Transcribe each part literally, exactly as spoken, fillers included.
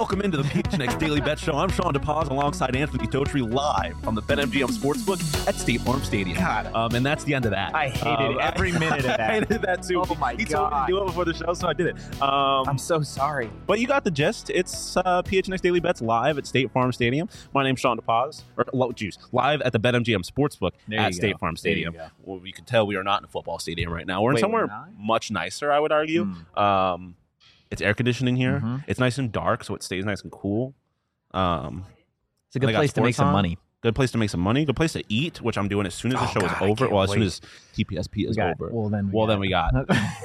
Welcome into the P H N X Daily Bet Show. I'm Sean DePaz alongside Anthony Totri live on the BetMGM Sportsbook at State Farm Stadium. God. Um, and that's the end of that. I hated um, every minute of that. I hated that too. Oh my he God. told me to do it before the show, so I did it. Um, I'm so sorry. But you got the gist. It's uh, P H N X Daily Bets live at State Farm Stadium. My name's Sean DePaz. Or, lo- juice. Live at the BetMGM Sportsbook There at you State go. Farm There you Stadium. go. Well, you can tell we are not in a football stadium right now. We're in Wait, somewhere we're not? much nicer, I would argue. Mm. Um, it's air conditioning here. Mhm. It's nice and dark, so it stays nice and cool. Um, It's a They good got place to make sports some on. money. Good place to make some money. Good place to eat, which I'm doing as soon as the Oh, show God, is I over. can't Well, as soon wait. as T P S P is We got- over. Well, then we well, got then we got.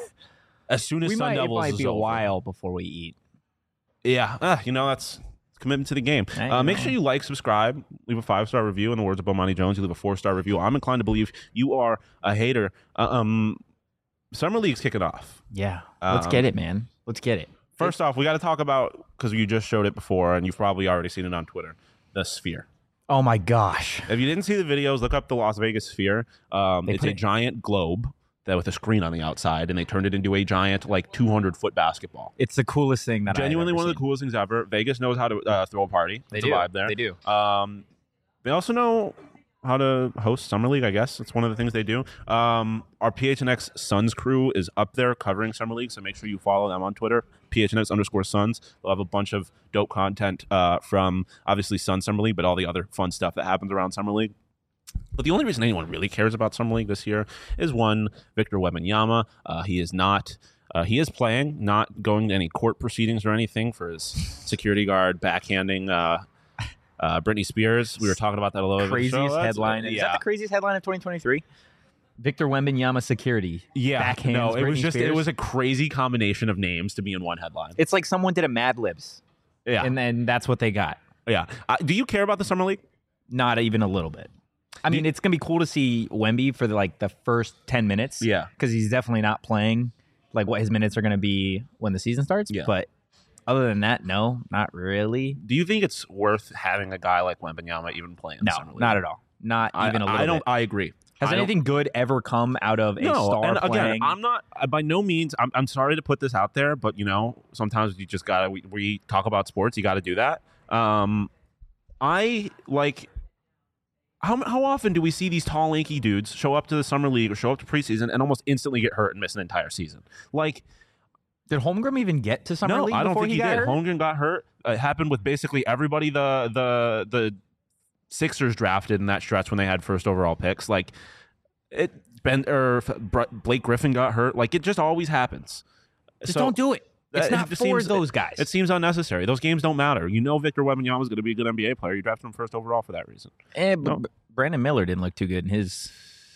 As soon as we Sun might, it Devils might is be a over. while before we eat. Yeah, uh, you know that's commitment to the game. I Uh, make know. sure you like, subscribe, leave a five star review. In the words of Bomani Jones, you leave a four star review. I'm inclined to believe you are a hater. Uh, um, Summer League's kicking off. Yeah. Let's Um, get it, man. Let's get it. First off, we got to talk about, because you just showed it before, and you've probably already seen it on Twitter, the Sphere. Oh my gosh. If you didn't see the videos, look up the Las Vegas Sphere. Um, They it's put a it- giant globe that with a screen on the outside, and they turned it into a giant, like two hundred foot basketball. It's the coolest thing that Genuinely I've one ever of the coolest things ever. Vegas knows how to uh, throw a party. They It's do. a vibe there. They do. Um, they also know how to host Summer League, I guess. It's one of the things they do. Um, our P H N X Suns crew is up there covering Summer League, so make sure you follow them on Twitter, P H N X underscore Suns. They'll have a bunch of dope content uh, from, obviously, Sun Summer League, but all the other fun stuff that happens around Summer League. But the only reason anyone really cares about Summer League this year is one, Victor Wembanyama. Uh, he is not... Uh, he is playing, not going to any court proceedings or anything for his security guard backhanding uh, uh, Britney Spears. We were talking about that a little bit. Craziest That's- headline. Is yeah. that the craziest headline of twenty twenty-three? Victor Wembanyama security. Yeah, Backhands no, it was Britney just it Spears. was a crazy combination of names to be in one headline. It's like someone did a Mad Libs. Yeah, And then that's what they got. yeah. Uh, do you care about the Summer League? Not even a little bit. I mean, it's gonna be cool to see Wemby for the, like the first ten minutes. Yeah. because he's definitely not playing like what his minutes are gonna be when the season starts. Yeah. But other than that, no, not really. Do you think it's worth having a guy like Wembanyama even playing? No, the Summer League? not at all. Not I, even a little I don't. bit. I agree. Has I don't- anything good ever come out of a No, star and again, playing? I'm not I- by no means. I'm, I'm sorry to put this out there, but you know, sometimes you just gotta. We, we talk about sports. You got to do that. Um, I like. How how often do we see these tall, lanky dudes show up to the summer league or show up to preseason and almost instantly get hurt and miss an entire season? Like, Did Holmgren even get to summer no, league I don't before think he, he, got did. hurt? Holmgren got hurt. It happened with basically everybody the the the Sixers drafted in that stretch when they had first overall picks. Like it, Ben or Blake Griffin got hurt. Like it just always happens. Just So- don't do it. It's That- not it just for seems- those guys. It seems unnecessary. Those games don't matter. You know Victor Wembanyama is going to be a good N B A player. You drafted him first overall for that reason. Eh, but No. B- Brandon Miller didn't look too good in his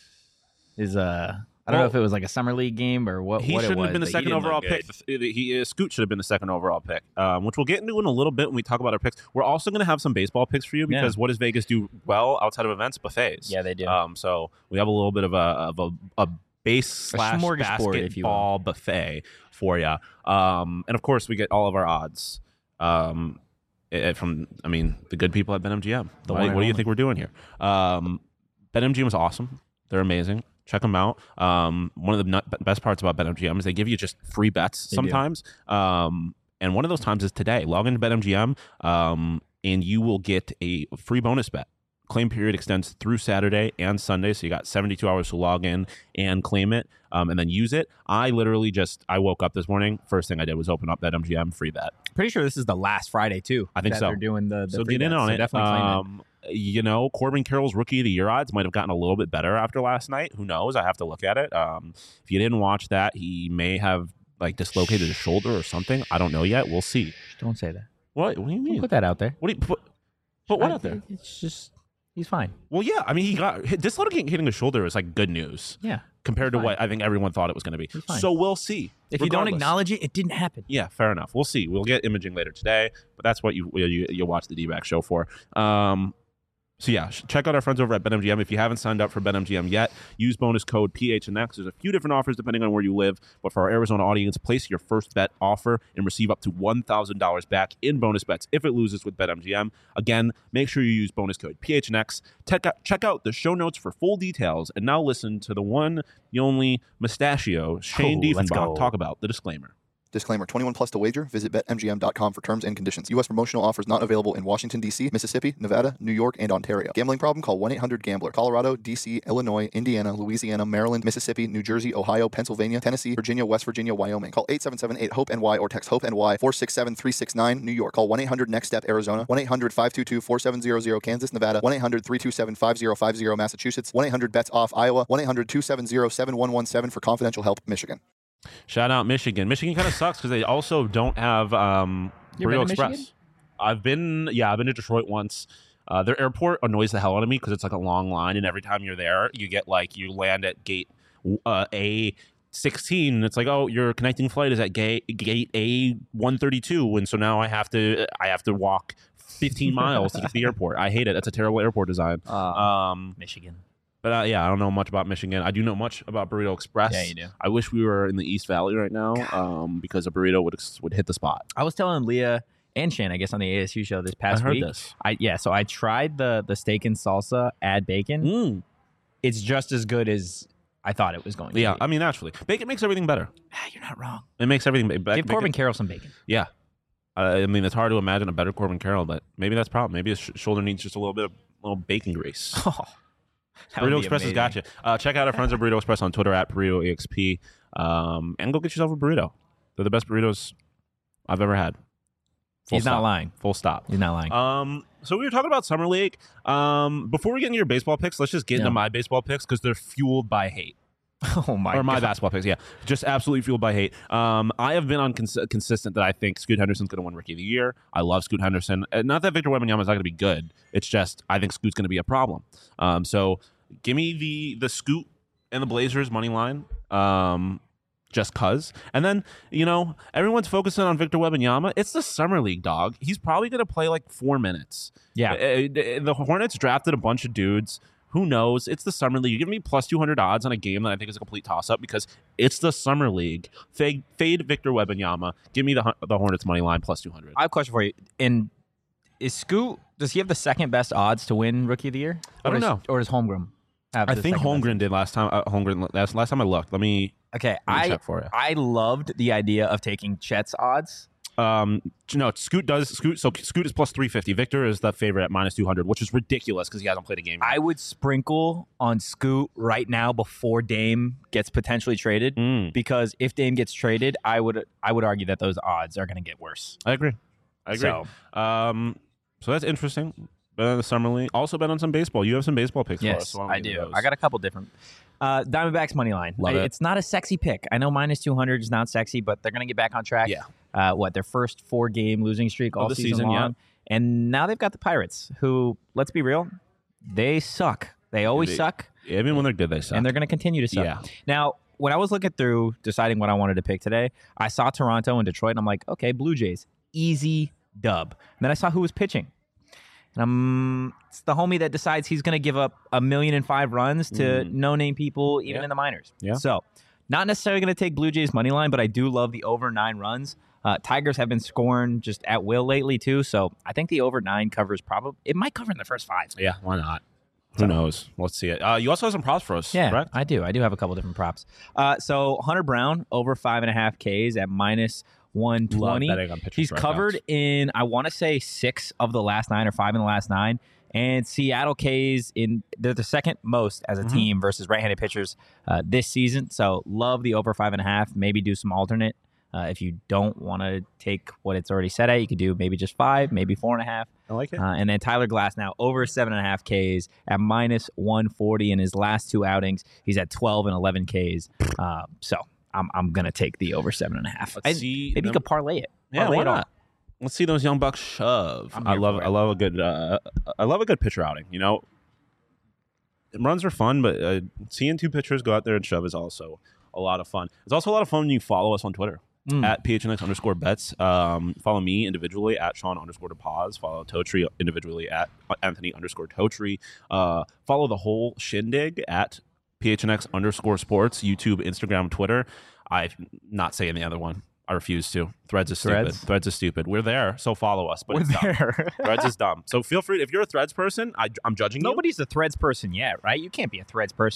his uh I don't Well, know if it was like a summer league game or what, He what it shouldn't was, have been the but he second didn't look overall good. pick. He uh, Scoot should have been the second overall pick, um, which we'll get into in a little bit when we talk about our picks. We're also going to have some baseball picks for you Yeah. because what does Vegas do well outside of events? Buffets. Yeah, they do. Um, so we have a little bit of a of a, a base slash smorgasbord, if you will. basketball buffet for you. Um, and of course, we get all of our odds um, eh, from, I mean, the good people at BetMGM. The What, one and what do you only. think we're doing here? Um, BetMGM is awesome. They're amazing. Check them out. Um, one of the nut- best parts about BetMGM is they give you just free bets They do. sometimes. Um, and one of those times is today. Log into BetMGM um, and you will get a free bonus bet. Claim period extends through Saturday and Sunday, so you got seventy-two hours to log in and claim it, um, and then use it. I literally just I woke up this morning. First thing I did was open up BetMGM free bet. Pretty sure this is the last Friday too. I think that so. They're doing the, the So free get in bets, on so it. Definitely claim it. Um, you know, Corbin Carroll's rookie of the year odds might have gotten a little bit better after last night. Who knows? I have to look at it. Um, if you didn't watch that, he may have like dislocated his shoulder or something. I don't know yet. We'll see. Don't say that. What? What do you Don't mean? put that out there. What do you put? Put what I- out there? It's just he's fine. Well, yeah. I mean, he got dislocating hitting his shoulder is like good news Yeah. compared to fine. what I think everyone thought it was going to be. He's fine. So we'll see. If you don't Regardless. acknowledge it, it didn't happen. Yeah, fair enough. We'll see. We'll get imaging later today, but that's what you, you you'll watch the D-back show for. Um, so yeah, sh- check out our friends over at BetMGM. If you haven't signed up for BetMGM yet, use bonus code P H N X. There's a few different offers depending on where you live, but for our Arizona audience, place your first bet offer and receive up to one thousand dollars back in bonus bets if it loses with BetMGM. Again, make sure you use bonus code P H N X. Check out, check out the show notes for full details, and now listen to the one, the only mustachio, Shane Oh, let's Diefenbach, go. talk about the disclaimer. Disclaimer, twenty-one plus to wager. Visit bet M G M dot com for terms and conditions. U S promotional offers not available in Washington, D C, Mississippi, Nevada, New York, and Ontario. Gambling problem? Call one eight hundred gambler. Colorado, D C, Illinois, Indiana, Louisiana, Maryland, Mississippi, New Jersey, Ohio, Pennsylvania, Tennessee, Virginia, West Virginia, Wyoming. Call eight seven seven eight hope N Y or text HOPE-NY four six seven three six nine. New York. Call one eight hundred next step Arizona. one eight hundred five two two four seven zero zero Kansas, Nevada. one eight hundred three two seven five zero five zero Massachusetts. one eight hundred bets off Iowa. one eight hundred two seven zero seven one one seven for confidential help, Michigan. Shout out Michigan. Michigan kind of sucks because they also don't have um, You ever Burrito been to Express. Michigan? I've been, yeah, I've been to Detroit once. Uh, their airport annoys the hell out of me because it's like a long line, and every time you're there, you get like you land at gate uh, A sixteen, and it's like, oh, your connecting flight is at gate gate A one thirty-two, and so now I have to I have to walk fifteen miles to get to the airport. I hate it. That's a terrible airport design. Uh, Um, Michigan. But uh, yeah, I don't know much about Michigan. I do know much about Burrito Express. Yeah, you do. I wish we were in the East Valley right now, um, because a burrito would would hit the spot. I was telling Leah and Shane, I guess, on the A S U show this I past heard week. this. I yeah, so I tried the the steak and salsa add bacon. Mm. It's just as good as I thought it was going to Yeah, be. I mean, naturally, bacon makes everything better. Ah, you're not wrong. It makes everything better. Give Corbin Carroll some bacon. Yeah. Uh, I mean, it's hard to imagine a better Corbin Carroll, but maybe that's the problem. Maybe his sh- shoulder needs just a little bit of little bacon grease. Oh, that would Burrito be Express has amazing. got you. Uh, check out our friends at Burrito Express on Twitter at Burrito E X P, um, and go get yourself a burrito. They're the best burritos I've ever had. Full He's stop. not lying. Full stop. He's not lying. Um, so we were talking about Summer League. Um, before we get into your baseball picks, let's just get Yeah. into my baseball picks because they're fueled by hate. oh my or my God. basketball picks, yeah, just absolutely fueled by hate. Um, I have been on cons- consistent that I think Scoot Henderson's going to win Rookie of the Year. I love Scoot Henderson. Uh, Not that Victor Wembanyama is not going to be good. It's just I think Scoot's going to be a problem. Um, so give me the the Scoot and the Blazers money line. Um, just cause, and then you know everyone's focusing on Victor Wembanyama. It's the summer league, dog. He's probably going to play like four minutes. Yeah. Uh, the Hornets drafted a bunch of dudes. Who knows? It's the summer league. You give me plus two hundred odds on a game that I think is a complete toss-up because it's the summer league. Fade, fade Victor Wembanyama. Give me the Hun- the Hornets money line plus two hundred. I have a question for you. And is Scoot, does he have the second best odds to win Rookie of the Year? I Or don't does- know. Or does Holmgren have I the think second best? Holmgren did last time. Uh, Holmgren last, last time I looked. Let me, Okay, let me I check for you. I loved the idea of taking Chet's odds. Um, no, Scoot does Scoot. So Scoot is plus three fifty. Victor is the favorite at minus two hundred, which is ridiculous because he hasn't played a game yet. I would sprinkle on Scoot right now before Dame gets potentially traded, Mm, because if Dame gets traded, I would I would argue that those odds are going to get worse. I agree. I agree. So, Um, so that's interesting. Bet on the summer league. Also bet on some baseball. You have some baseball picks for us. yes, so why don't I we get do. those? I got a couple different. Uh, Diamondbacks money line. Love I- it. It's not a sexy pick. I know minus two hundred is not sexy, but they're going to get back on track. Yeah. Uh, what, their first four game losing streak all the season, season, yeah. long. And now they've got the Pirates, who, let's be real, they suck. They always They- suck, Even when they're good, they suck. and they're going to continue to suck. Yeah. Now, when I was looking through deciding what I wanted to pick today, I saw Toronto and Detroit, and I'm like, okay, Blue Jays, easy dub. And then I saw who was pitching. And I'm, it's the homie that decides he's going to give up a million and five runs to Mm. no-name people, even Yeah. in the minors. Yeah. So, not necessarily going to take Blue Jays money line, but I do love the over nine runs. Uh, Tigers have been scoring just at will lately too, so I think the over nine covers probably. It might cover in the first five. Yeah, why not? Who knows? Let's see it. Uh, you also have some props for us, Yeah, correct? I do. I do have a couple different props. Uh, so Hunter Brown over five and a half Ks at minus one Love twenty. betting on pitchers He's for Red covered Sox. in, I want to say, six of the last nine or five in the last nine. And Seattle K's in they're the second most as a Mhm. team versus right-handed pitchers uh, this season. So love the over five and a half. Maybe do some alternate. Uh, if you don't want to take what it's already set at, you could do maybe just five, maybe four and a half. I like it. Uh, and then Tyler Glass now over seven and a half Ks at minus one forty in his last two outings. He's at twelve and eleven Ks. Uh, so I'm I'm gonna take the over seven and a half. Let's I- see maybe you them- could parlay it. Yeah, Parlay why it all. not? Let's see those young bucks shove. I'm I here love. for it. I love a good. Uh, I love a good pitcher outing. You know, runs are fun, but uh, seeing two pitchers go out there and shove is also a lot of fun. It's also a lot of fun when you follow us on Twitter. Mm. At P H N X underscore bets. Um, follow me individually at Sean underscore DePaz. Follow Totri individually at Anthony underscore Totri. Uh, follow the whole shindig at P H N X underscore sports, YouTube, Instagram, Twitter. I'm not saying the other one. I refuse to. Threads is stupid. Threads? Threads is stupid. We're there, so follow us. But We're it's dumb. there. Threads is dumb. So feel free. If you're a Threads person, I, I'm judging you. Nobody's a Threads person yet, right? You can't be a Threads person.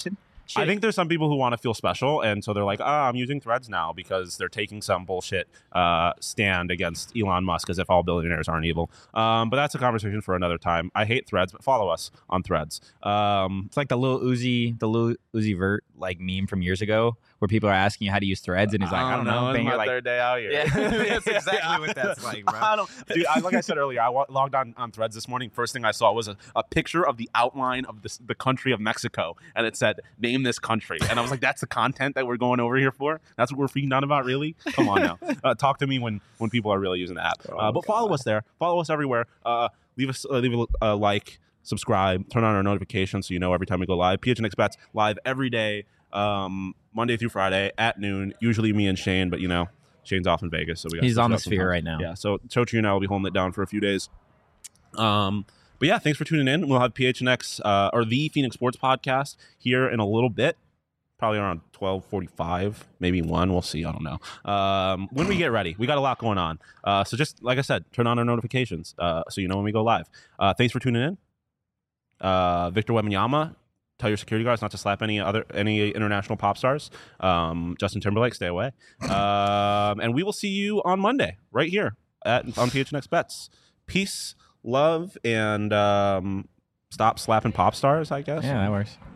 I think there's some people who want to feel special, and so they're like, "Ah, I'm using Threads now," because they're taking some bullshit uh, stand against Elon Musk, as if all billionaires aren't evil. Um, but that's a conversation for another time. I hate Threads, but follow us on Threads. Um, It's like the little Uzi, the little Uzi Vert like meme from years ago, where people are asking you how to use Threads, and he's like, I don't know. It's And my you're like, third day out here. yeah, that's exactly what that's like, bro. I don't, dude, I, like I said earlier, I wa- logged on on Threads this morning. First thing I saw was a, a picture of the outline of this, the country of Mexico, and it said, "Name this country." And I was like, "That's the content that we're going over here for? That's what we're freaking out about, really? Come on now, uh, talk to me when when people are really using the app." Uh, but follow us there, follow us everywhere. Uh, leave us, uh, leave a uh, like, subscribe, turn on our notifications so you know every time we go live. P H N X Bets live every day, um, Monday through Friday at noon. Usually me and Shane, but you know. Shane's off in Vegas, so we got He's on the sphere right now. Yeah, so Chochi and I will be holding it down for a few days. Um, but yeah, thanks for tuning in. We'll have P H N X uh, or the Phoenix Sports Podcast here in a little bit, probably around twelve forty-five, maybe one. We'll see. I don't know. Um, when we get ready, we got a lot going on. Uh, so just like I said, turn on our notifications uh, so you know when we go live. Uh, thanks for tuning in. Uh, Victor Wembanyama. Tell your security guards not to slap any other any international pop stars. Um, Justin Timberlake, stay away. Um, and we will see you on Monday right here at on P H N X Bets. Peace, love, and um, stop slapping pop stars, I guess. Yeah, that works.